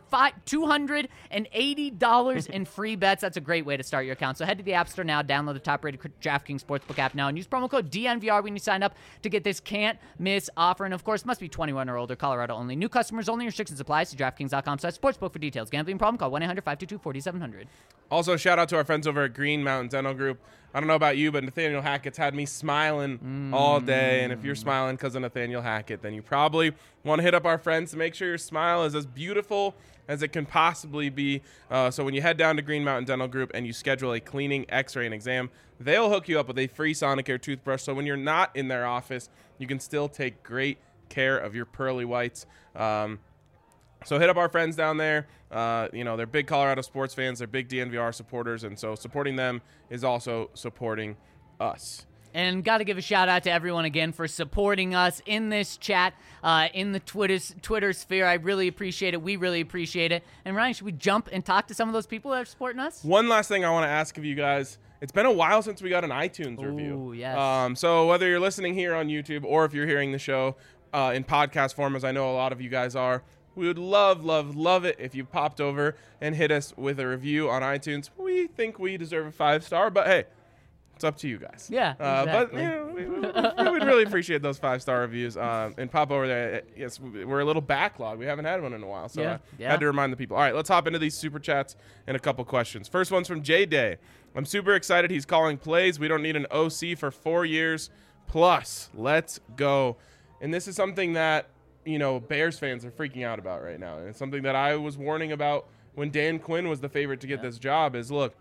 [SPEAKER 1] $280 in free bets. That's a great way to start your account. So head to the App Store now, download the top-rated DraftKings Sportsbook app now, and use promo code DNVR when you sign up to get this can't-miss offer. And, of course, must be 21 or older, Colorado only. New customers only. Restrictions apply. See DraftKings.com/sportsbook for details. Gambling problem? Call 1-800-522-4700.
[SPEAKER 3] Also, shout out to our friends over at Green Mountain Dental Group. I don't know about you, but Nathaniel Hackett's had me smiling all day. And if you're smiling because of Nathaniel Hackett, then you probably want to hit up our friends to make sure your smile is as beautiful as it can possibly be. So when you head down to Green Mountain Dental Group and you schedule a cleaning, x-ray, and exam, they'll hook you up with a free Sonicare toothbrush. So when you're not in their office, you can still take great care of your pearly whites. So hit up our friends down there. They're big Colorado sports fans. They're big DNVR supporters. And so supporting them is also supporting us.
[SPEAKER 1] And got to give a shout-out to everyone again for supporting us in this chat, in the Twitter sphere. I really appreciate it. We really appreciate it. And, Ryan, should we jump and talk to some of those people that are supporting us?
[SPEAKER 3] One last thing I want to ask of you guys. It's been a while since we got an iTunes review.
[SPEAKER 1] Ooh, yes.
[SPEAKER 3] So whether you're listening here on YouTube or if you're hearing the show in podcast form, as I know a lot of you guys are. We would love, love, love it if you popped over and hit us with a review on iTunes. We think we deserve a 5-star, but hey, it's up to you guys.
[SPEAKER 1] Yeah,
[SPEAKER 3] But
[SPEAKER 1] exactly.
[SPEAKER 3] we'd really appreciate those 5-star reviews. And pop over there. Yes, we're a little backlog. We haven't had one in a while, so I had to remind the people. All right, let's hop into these super chats and a couple questions. First one's from J-Day. I'm super excited he's calling plays. We don't need an OC for 4 years plus. Let's go. And this is something that, Bears fans are freaking out about right now. And it's something that I was warning about when Dan Quinn was the favorite to get this job is, look,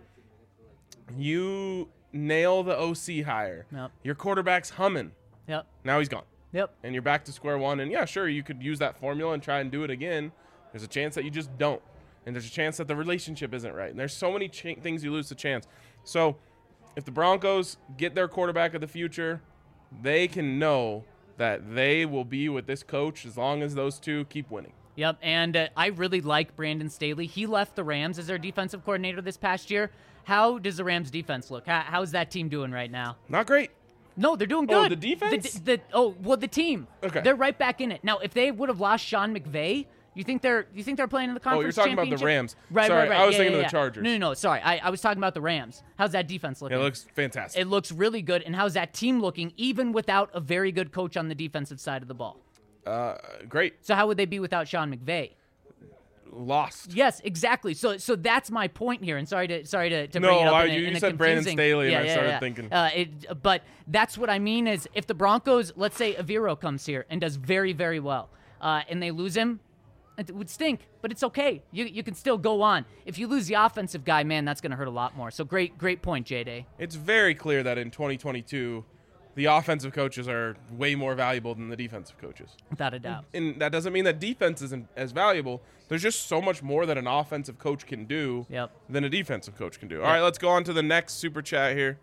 [SPEAKER 3] you nail the OC hire.
[SPEAKER 1] Yep.
[SPEAKER 3] Your quarterback's humming.
[SPEAKER 1] Yep.
[SPEAKER 3] Now he's gone.
[SPEAKER 1] Yep.
[SPEAKER 3] And you're back to square one. And, yeah, sure, you could use that formula and try and do it again. There's a chance that you just don't. And there's a chance that the relationship isn't right. And there's so many things you lose to chance. So if the Broncos get their quarterback of the future, they can know that they will be with this coach as long as those two keep winning.
[SPEAKER 1] Yep, and I really like Brandon Staley. He left the Rams as their defensive coordinator this past year. How does the Rams defense look? How's that team doing right now?
[SPEAKER 3] Not great.
[SPEAKER 1] No, they're doing good.
[SPEAKER 3] Oh, the defense?
[SPEAKER 1] The team.
[SPEAKER 3] Okay.
[SPEAKER 1] They're right back in it. Now, if they would have lost Sean McVay, you think they're playing in the conference
[SPEAKER 3] Oh, you're talking about the
[SPEAKER 1] championship?
[SPEAKER 3] Rams.
[SPEAKER 1] Right,
[SPEAKER 3] Sorry,
[SPEAKER 1] right.
[SPEAKER 3] I was
[SPEAKER 1] Yeah,
[SPEAKER 3] thinking
[SPEAKER 1] yeah,
[SPEAKER 3] of the
[SPEAKER 1] yeah.
[SPEAKER 3] Chargers.
[SPEAKER 1] No, sorry. I was talking about the Rams. How's that defense looking?
[SPEAKER 3] It looks fantastic.
[SPEAKER 1] It looks really good. And how's that team looking, even without a very good coach on the defensive side of the ball?
[SPEAKER 3] Great.
[SPEAKER 1] So how would they be without Sean McVay?
[SPEAKER 3] Lost.
[SPEAKER 1] Yes, exactly. So that's my point here. And sorry to bring it up.
[SPEAKER 3] You said Brandon Staley, and I started thinking.
[SPEAKER 1] But that's what I mean is if the Broncos, let's say Aviro comes here and does very, very well, and they lose him, it would stink, but it's okay. You can still go on. If you lose the offensive guy, man, that's going to hurt a lot more. So great point, J-Day.
[SPEAKER 3] It's very clear that in 2022, the offensive coaches are way more valuable than the defensive coaches.
[SPEAKER 1] Without a doubt.
[SPEAKER 3] And that doesn't mean that defense isn't as valuable. There's just so much more that an offensive coach can do than a defensive coach can do. All right, let's go on to the next super chat here.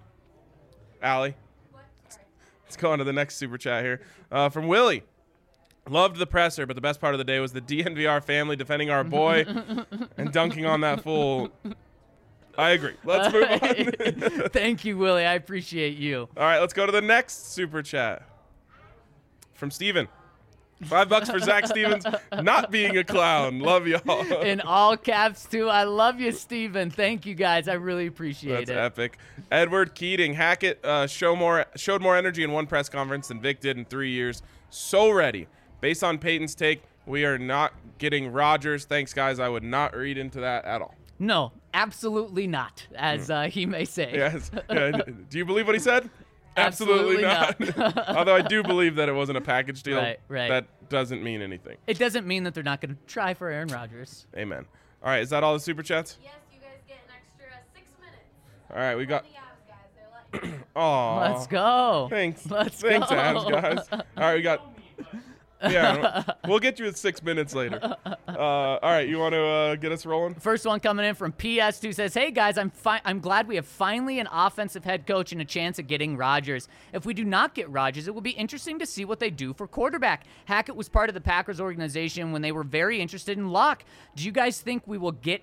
[SPEAKER 3] Allie. Let's go on to the next super chat here. From Willie. Loved the presser, but the best part of the day was the DNVR family defending our boy and dunking on that fool. I agree. Let's move on.
[SPEAKER 1] Thank you, Willie. I appreciate you.
[SPEAKER 3] All right, let's go to the next super chat. From Steven. $5 for Zach Stevens not being a clown. Love y'all.
[SPEAKER 1] In all caps, too. I love you, Steven. Thank you, guys. I really appreciate
[SPEAKER 3] That's
[SPEAKER 1] it.
[SPEAKER 3] epic. Edward Keating. Hackett showed more energy in one press conference than Vic did in 3 years. So ready. Based on Peyton's take, we are not getting Rodgers. Thanks, guys. I would not read into that at all.
[SPEAKER 1] No, absolutely not, as he may say.
[SPEAKER 3] Yes. Do you believe what he said?
[SPEAKER 1] Absolutely not.
[SPEAKER 3] Although I do believe that it wasn't a package deal.
[SPEAKER 1] Right.
[SPEAKER 3] That doesn't mean anything.
[SPEAKER 1] It doesn't mean that they're not going to try for Aaron Rodgers.
[SPEAKER 3] Amen. All right, is that all the super chats?
[SPEAKER 4] Yes, you guys get an extra 6 minutes.
[SPEAKER 3] All right, we got.
[SPEAKER 4] The Avs guys, they're letting you.
[SPEAKER 3] Aw.
[SPEAKER 1] Let's go.
[SPEAKER 3] Thanks.
[SPEAKER 1] Let's
[SPEAKER 3] Thanks,
[SPEAKER 1] go.
[SPEAKER 3] Avs guys. All right, we got. Yeah, we'll get you at 6 minutes later. All right, you want to get us rolling?
[SPEAKER 1] First one coming in from PS2 says, "Hey guys, I'm glad we have finally an offensive head coach and a chance at getting Rodgers. If we do not get Rodgers, it will be interesting to see what they do for quarterback. Hackett was part of the Packers organization when they were very interested in Locke. Do you guys think we will get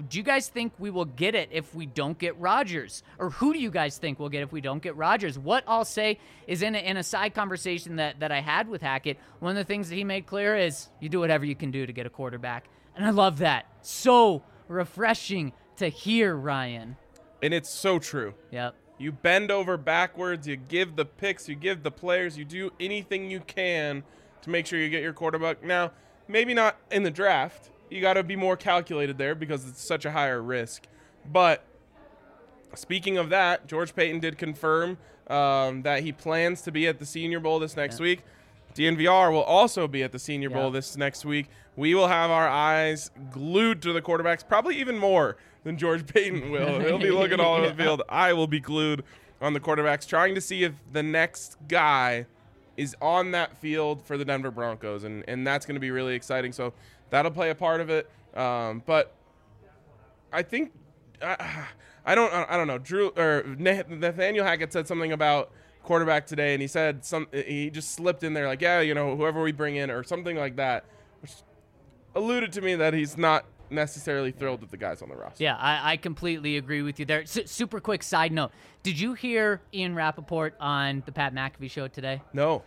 [SPEAKER 1] it if we don't get Rodgers? Or who do you guys think we'll get if we don't get Rodgers?" What I'll say is in a side conversation that I had with Hackett, one of the things that he made clear is you do whatever you can do to get a quarterback. And I love that. So refreshing to hear, Ryan.
[SPEAKER 3] And it's so true.
[SPEAKER 1] Yep.
[SPEAKER 3] You bend over backwards, you give the picks, you give the players, you do anything you can to make sure you get your quarterback. Now, maybe not in the draft. You got to be more calculated there because it's such a higher risk. But speaking of that, George Payton did confirm that he plans to be at the Senior Bowl this next week. DNVR will also be at the Senior Bowl this next week. We will have our eyes glued to the quarterbacks, probably even more than George Payton will. He'll be looking all over the field. I will be glued on the quarterbacks, trying to see if the next guy is on that field for the Denver Broncos, and that's going to be really exciting. So that'll play a part of it. But I think I don't know. Nathaniel Hackett said something about quarterback today, and he said he just slipped in there like, whoever we bring in or something like that, which alluded to me that he's not necessarily thrilled with the guys on the roster.
[SPEAKER 1] Yeah, I completely agree with you there. Super quick side note. Did you hear Ian Rappaport on the Pat McAfee show today?
[SPEAKER 3] No.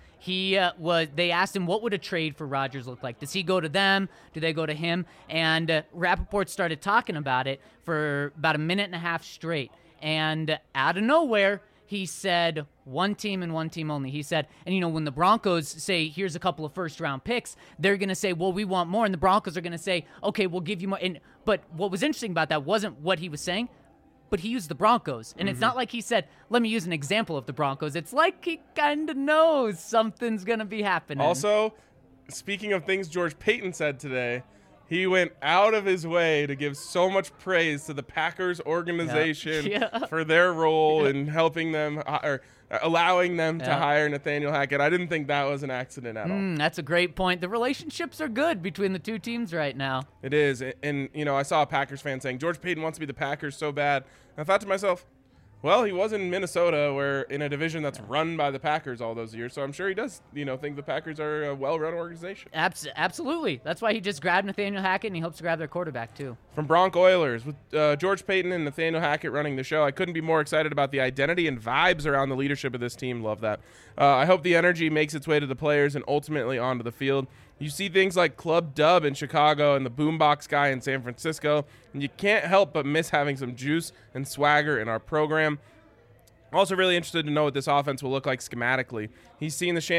[SPEAKER 1] They asked him what would a trade for Rodgers look like? Does he go to them? Do they go to him? And Rappaport started talking about it for about a minute and a half straight. And out of nowhere, he said one team and one team only. He said, and when the Broncos say, here's a couple of first-round picks, they're going to say, well, we want more. And the Broncos are going to say, okay, we'll give you more. But what was interesting about that wasn't what he was saying, but he used the Broncos. And it's not like he said, let me use an example of the Broncos. It's like he kind of knows something's going to be happening.
[SPEAKER 3] Also, speaking of things George Paton said today, he went out of his way to give so much praise to the Packers organization for their role in helping them or allowing them to hire Nathaniel Hackett. I didn't think that was an accident at all.
[SPEAKER 1] That's a great point. The relationships are good between the two teams right now.
[SPEAKER 3] It is. And I saw a Packers fan saying, George Paton wants to be the Packers so bad. And I thought to myself, well, he was in Minnesota, where in a division that's run by the Packers all those years. So I'm sure he does, think the Packers are a well-run organization.
[SPEAKER 1] Absolutely. That's why he just grabbed Nathaniel Hackett, and he hopes to grab their quarterback, too.
[SPEAKER 3] From Bronc Oilers, with George Paton and Nathaniel Hackett running the show, I couldn't be more excited about the identity and vibes around the leadership of this team. Love that. I hope the energy makes its way to the players and ultimately onto the field. You see things like Club Dub in Chicago and the Boombox guy in San Francisco, and you can't help but miss having some juice and swagger in our program. Also really interested to know what this offense will look like schematically. He's seen as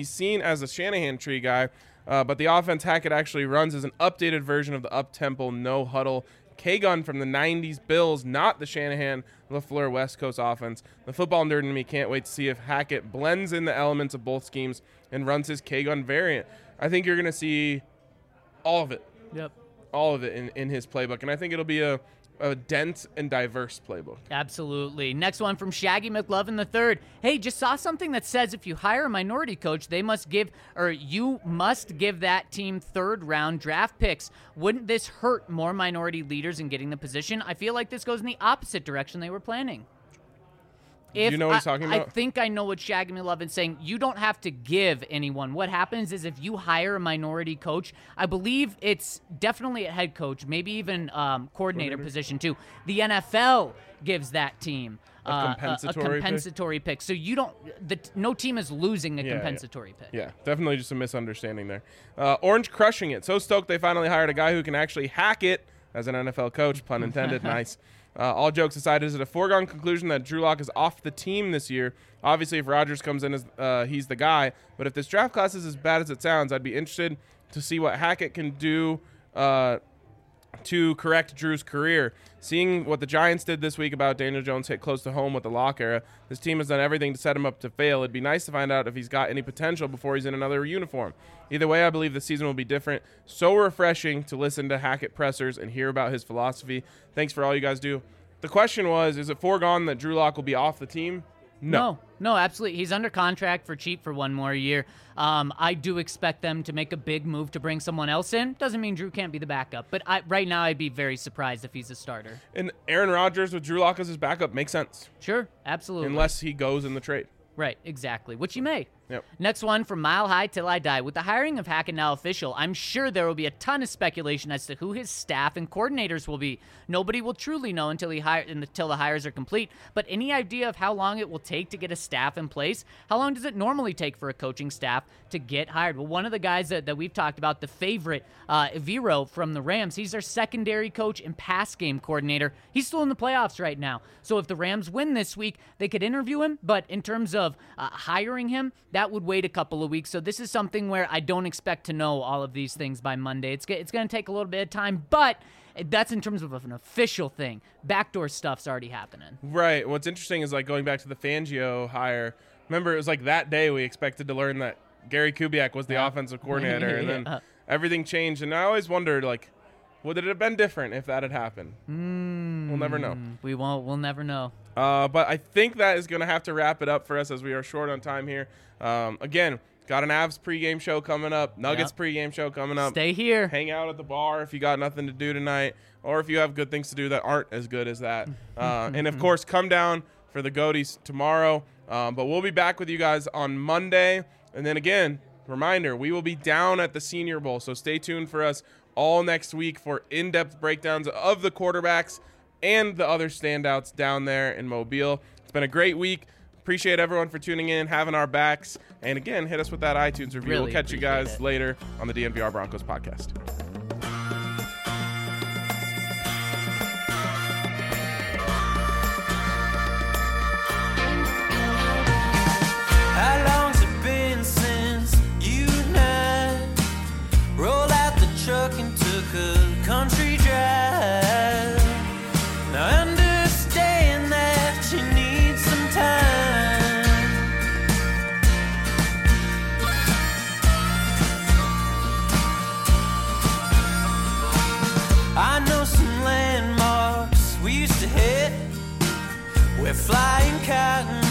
[SPEAKER 3] a Shanahan tree guy, but the offense Hackett actually runs as an updated version of the up-tempo, no-huddle K-gun from the 90s Bills, not the Shanahan LaFleur West Coast offense. The football nerd in me can't wait to see if Hackett blends in the elements of both schemes and runs his K-gun variant. I think you're going to see all of it.
[SPEAKER 1] Yep.
[SPEAKER 3] All of it in his playbook, and I think it'll be a dense and diverse playbook.
[SPEAKER 1] Absolutely. Next one from Shaggy McLovin III. Hey, just saw something that says if you hire a minority coach, you must give that team third-round draft picks. Wouldn't this hurt more minority leaders in getting the position? I feel like this goes in the opposite direction they were planning.
[SPEAKER 3] Do you know what he's talking about?
[SPEAKER 1] I think I know what Shaggy McLovin's saying. You don't have to give anyone. What happens is if you hire a minority coach, I believe it's definitely a head coach, maybe even coordinator position too. The NFL gives that team a compensatory pick. So no team is losing a compensatory pick.
[SPEAKER 3] Yeah, definitely just a misunderstanding there. Orange crushing it. So stoked they finally hired a guy who can actually hack it as an NFL coach, pun intended. Nice. All jokes aside, is it a foregone conclusion that Drew Lock is off the team this year? Obviously, if Rodgers comes in as he's the guy. But if this draft class is as bad as it sounds, I'd be interested to see what Hackett can do to correct Drew's career. Seeing what the Giants did this week about Daniel Jones hit close to home with the Lock era, this team has done everything to set him up to fail. It'd be nice to find out if he's got any potential before he's in another uniform. Either way, I believe the season will be different. So refreshing to listen to Hackett pressers and hear about his philosophy. Thanks for all you guys do. The question was, is it foregone that Drew Lock will be off the team? No, absolutely. He's under contract for cheap for one more year. I do expect them to make a big move to bring someone else in. Doesn't mean Drew can't be the backup, but right now I'd be very surprised if he's a starter. And Aaron Rodgers with Drew Lock as his backup makes sense.
[SPEAKER 1] Sure, absolutely.
[SPEAKER 3] Unless he goes in the trade.
[SPEAKER 1] Right, exactly, which he may.
[SPEAKER 3] Yep.
[SPEAKER 1] Next one from Mile High Till I Die. With the hiring of Hackett now official, I'm sure there will be a ton of speculation as to who his staff and coordinators will be. Nobody will truly know until the hires are complete. But any idea of how long it will take to get a staff in place? How long does it normally take for a coaching staff to get hired? Well, one of the guys that we've talked about, the favorite, Vero from the Rams, he's their secondary coach and pass game coordinator. He's still in the playoffs right now. So if the Rams win this week, they could interview him. But in terms of hiring him, that would wait a couple of weeks. So this is something where I don't expect to know all of these things by Monday. It's going to take a little bit of time, but that's in terms of an official thing. Backdoor stuff's already happening.
[SPEAKER 3] Right. What's interesting is like going back to the Fangio hire. Remember, it was like that day we expected to learn that Gary Kubiak was the offensive coordinator, and then everything changed. And I always wondered, like, would it have been different if that had happened? We'll never know.
[SPEAKER 1] We won't. We'll never know.
[SPEAKER 3] But I think that is going to have to wrap it up for us as we are short on time here. Again, got an Avs pregame show coming up, Nuggets pregame show coming up.
[SPEAKER 1] Stay here.
[SPEAKER 3] Hang out at the bar if you got nothing to do tonight, or if you have good things to do that aren't as good as that. And, of course, come down for the Goaties tomorrow. But we'll be back with you guys on Monday. And then, again, reminder, we will be down at the Senior Bowl, so stay tuned for us all next week for in-depth breakdowns of the quarterbacks and the other standouts down there in Mobile. It's been a great week. Appreciate everyone for tuning in, having our backs. And again, hit us with that iTunes review.
[SPEAKER 1] Really
[SPEAKER 3] we'll catch you
[SPEAKER 1] appreciate
[SPEAKER 3] guys
[SPEAKER 1] it.
[SPEAKER 3] later on the DNVR Broncos podcast.
[SPEAKER 2] How long's it been since you and I rolled out the truck and took a country drive? Now I understand that you need some time. I know some landmarks we used to hit where flying cotton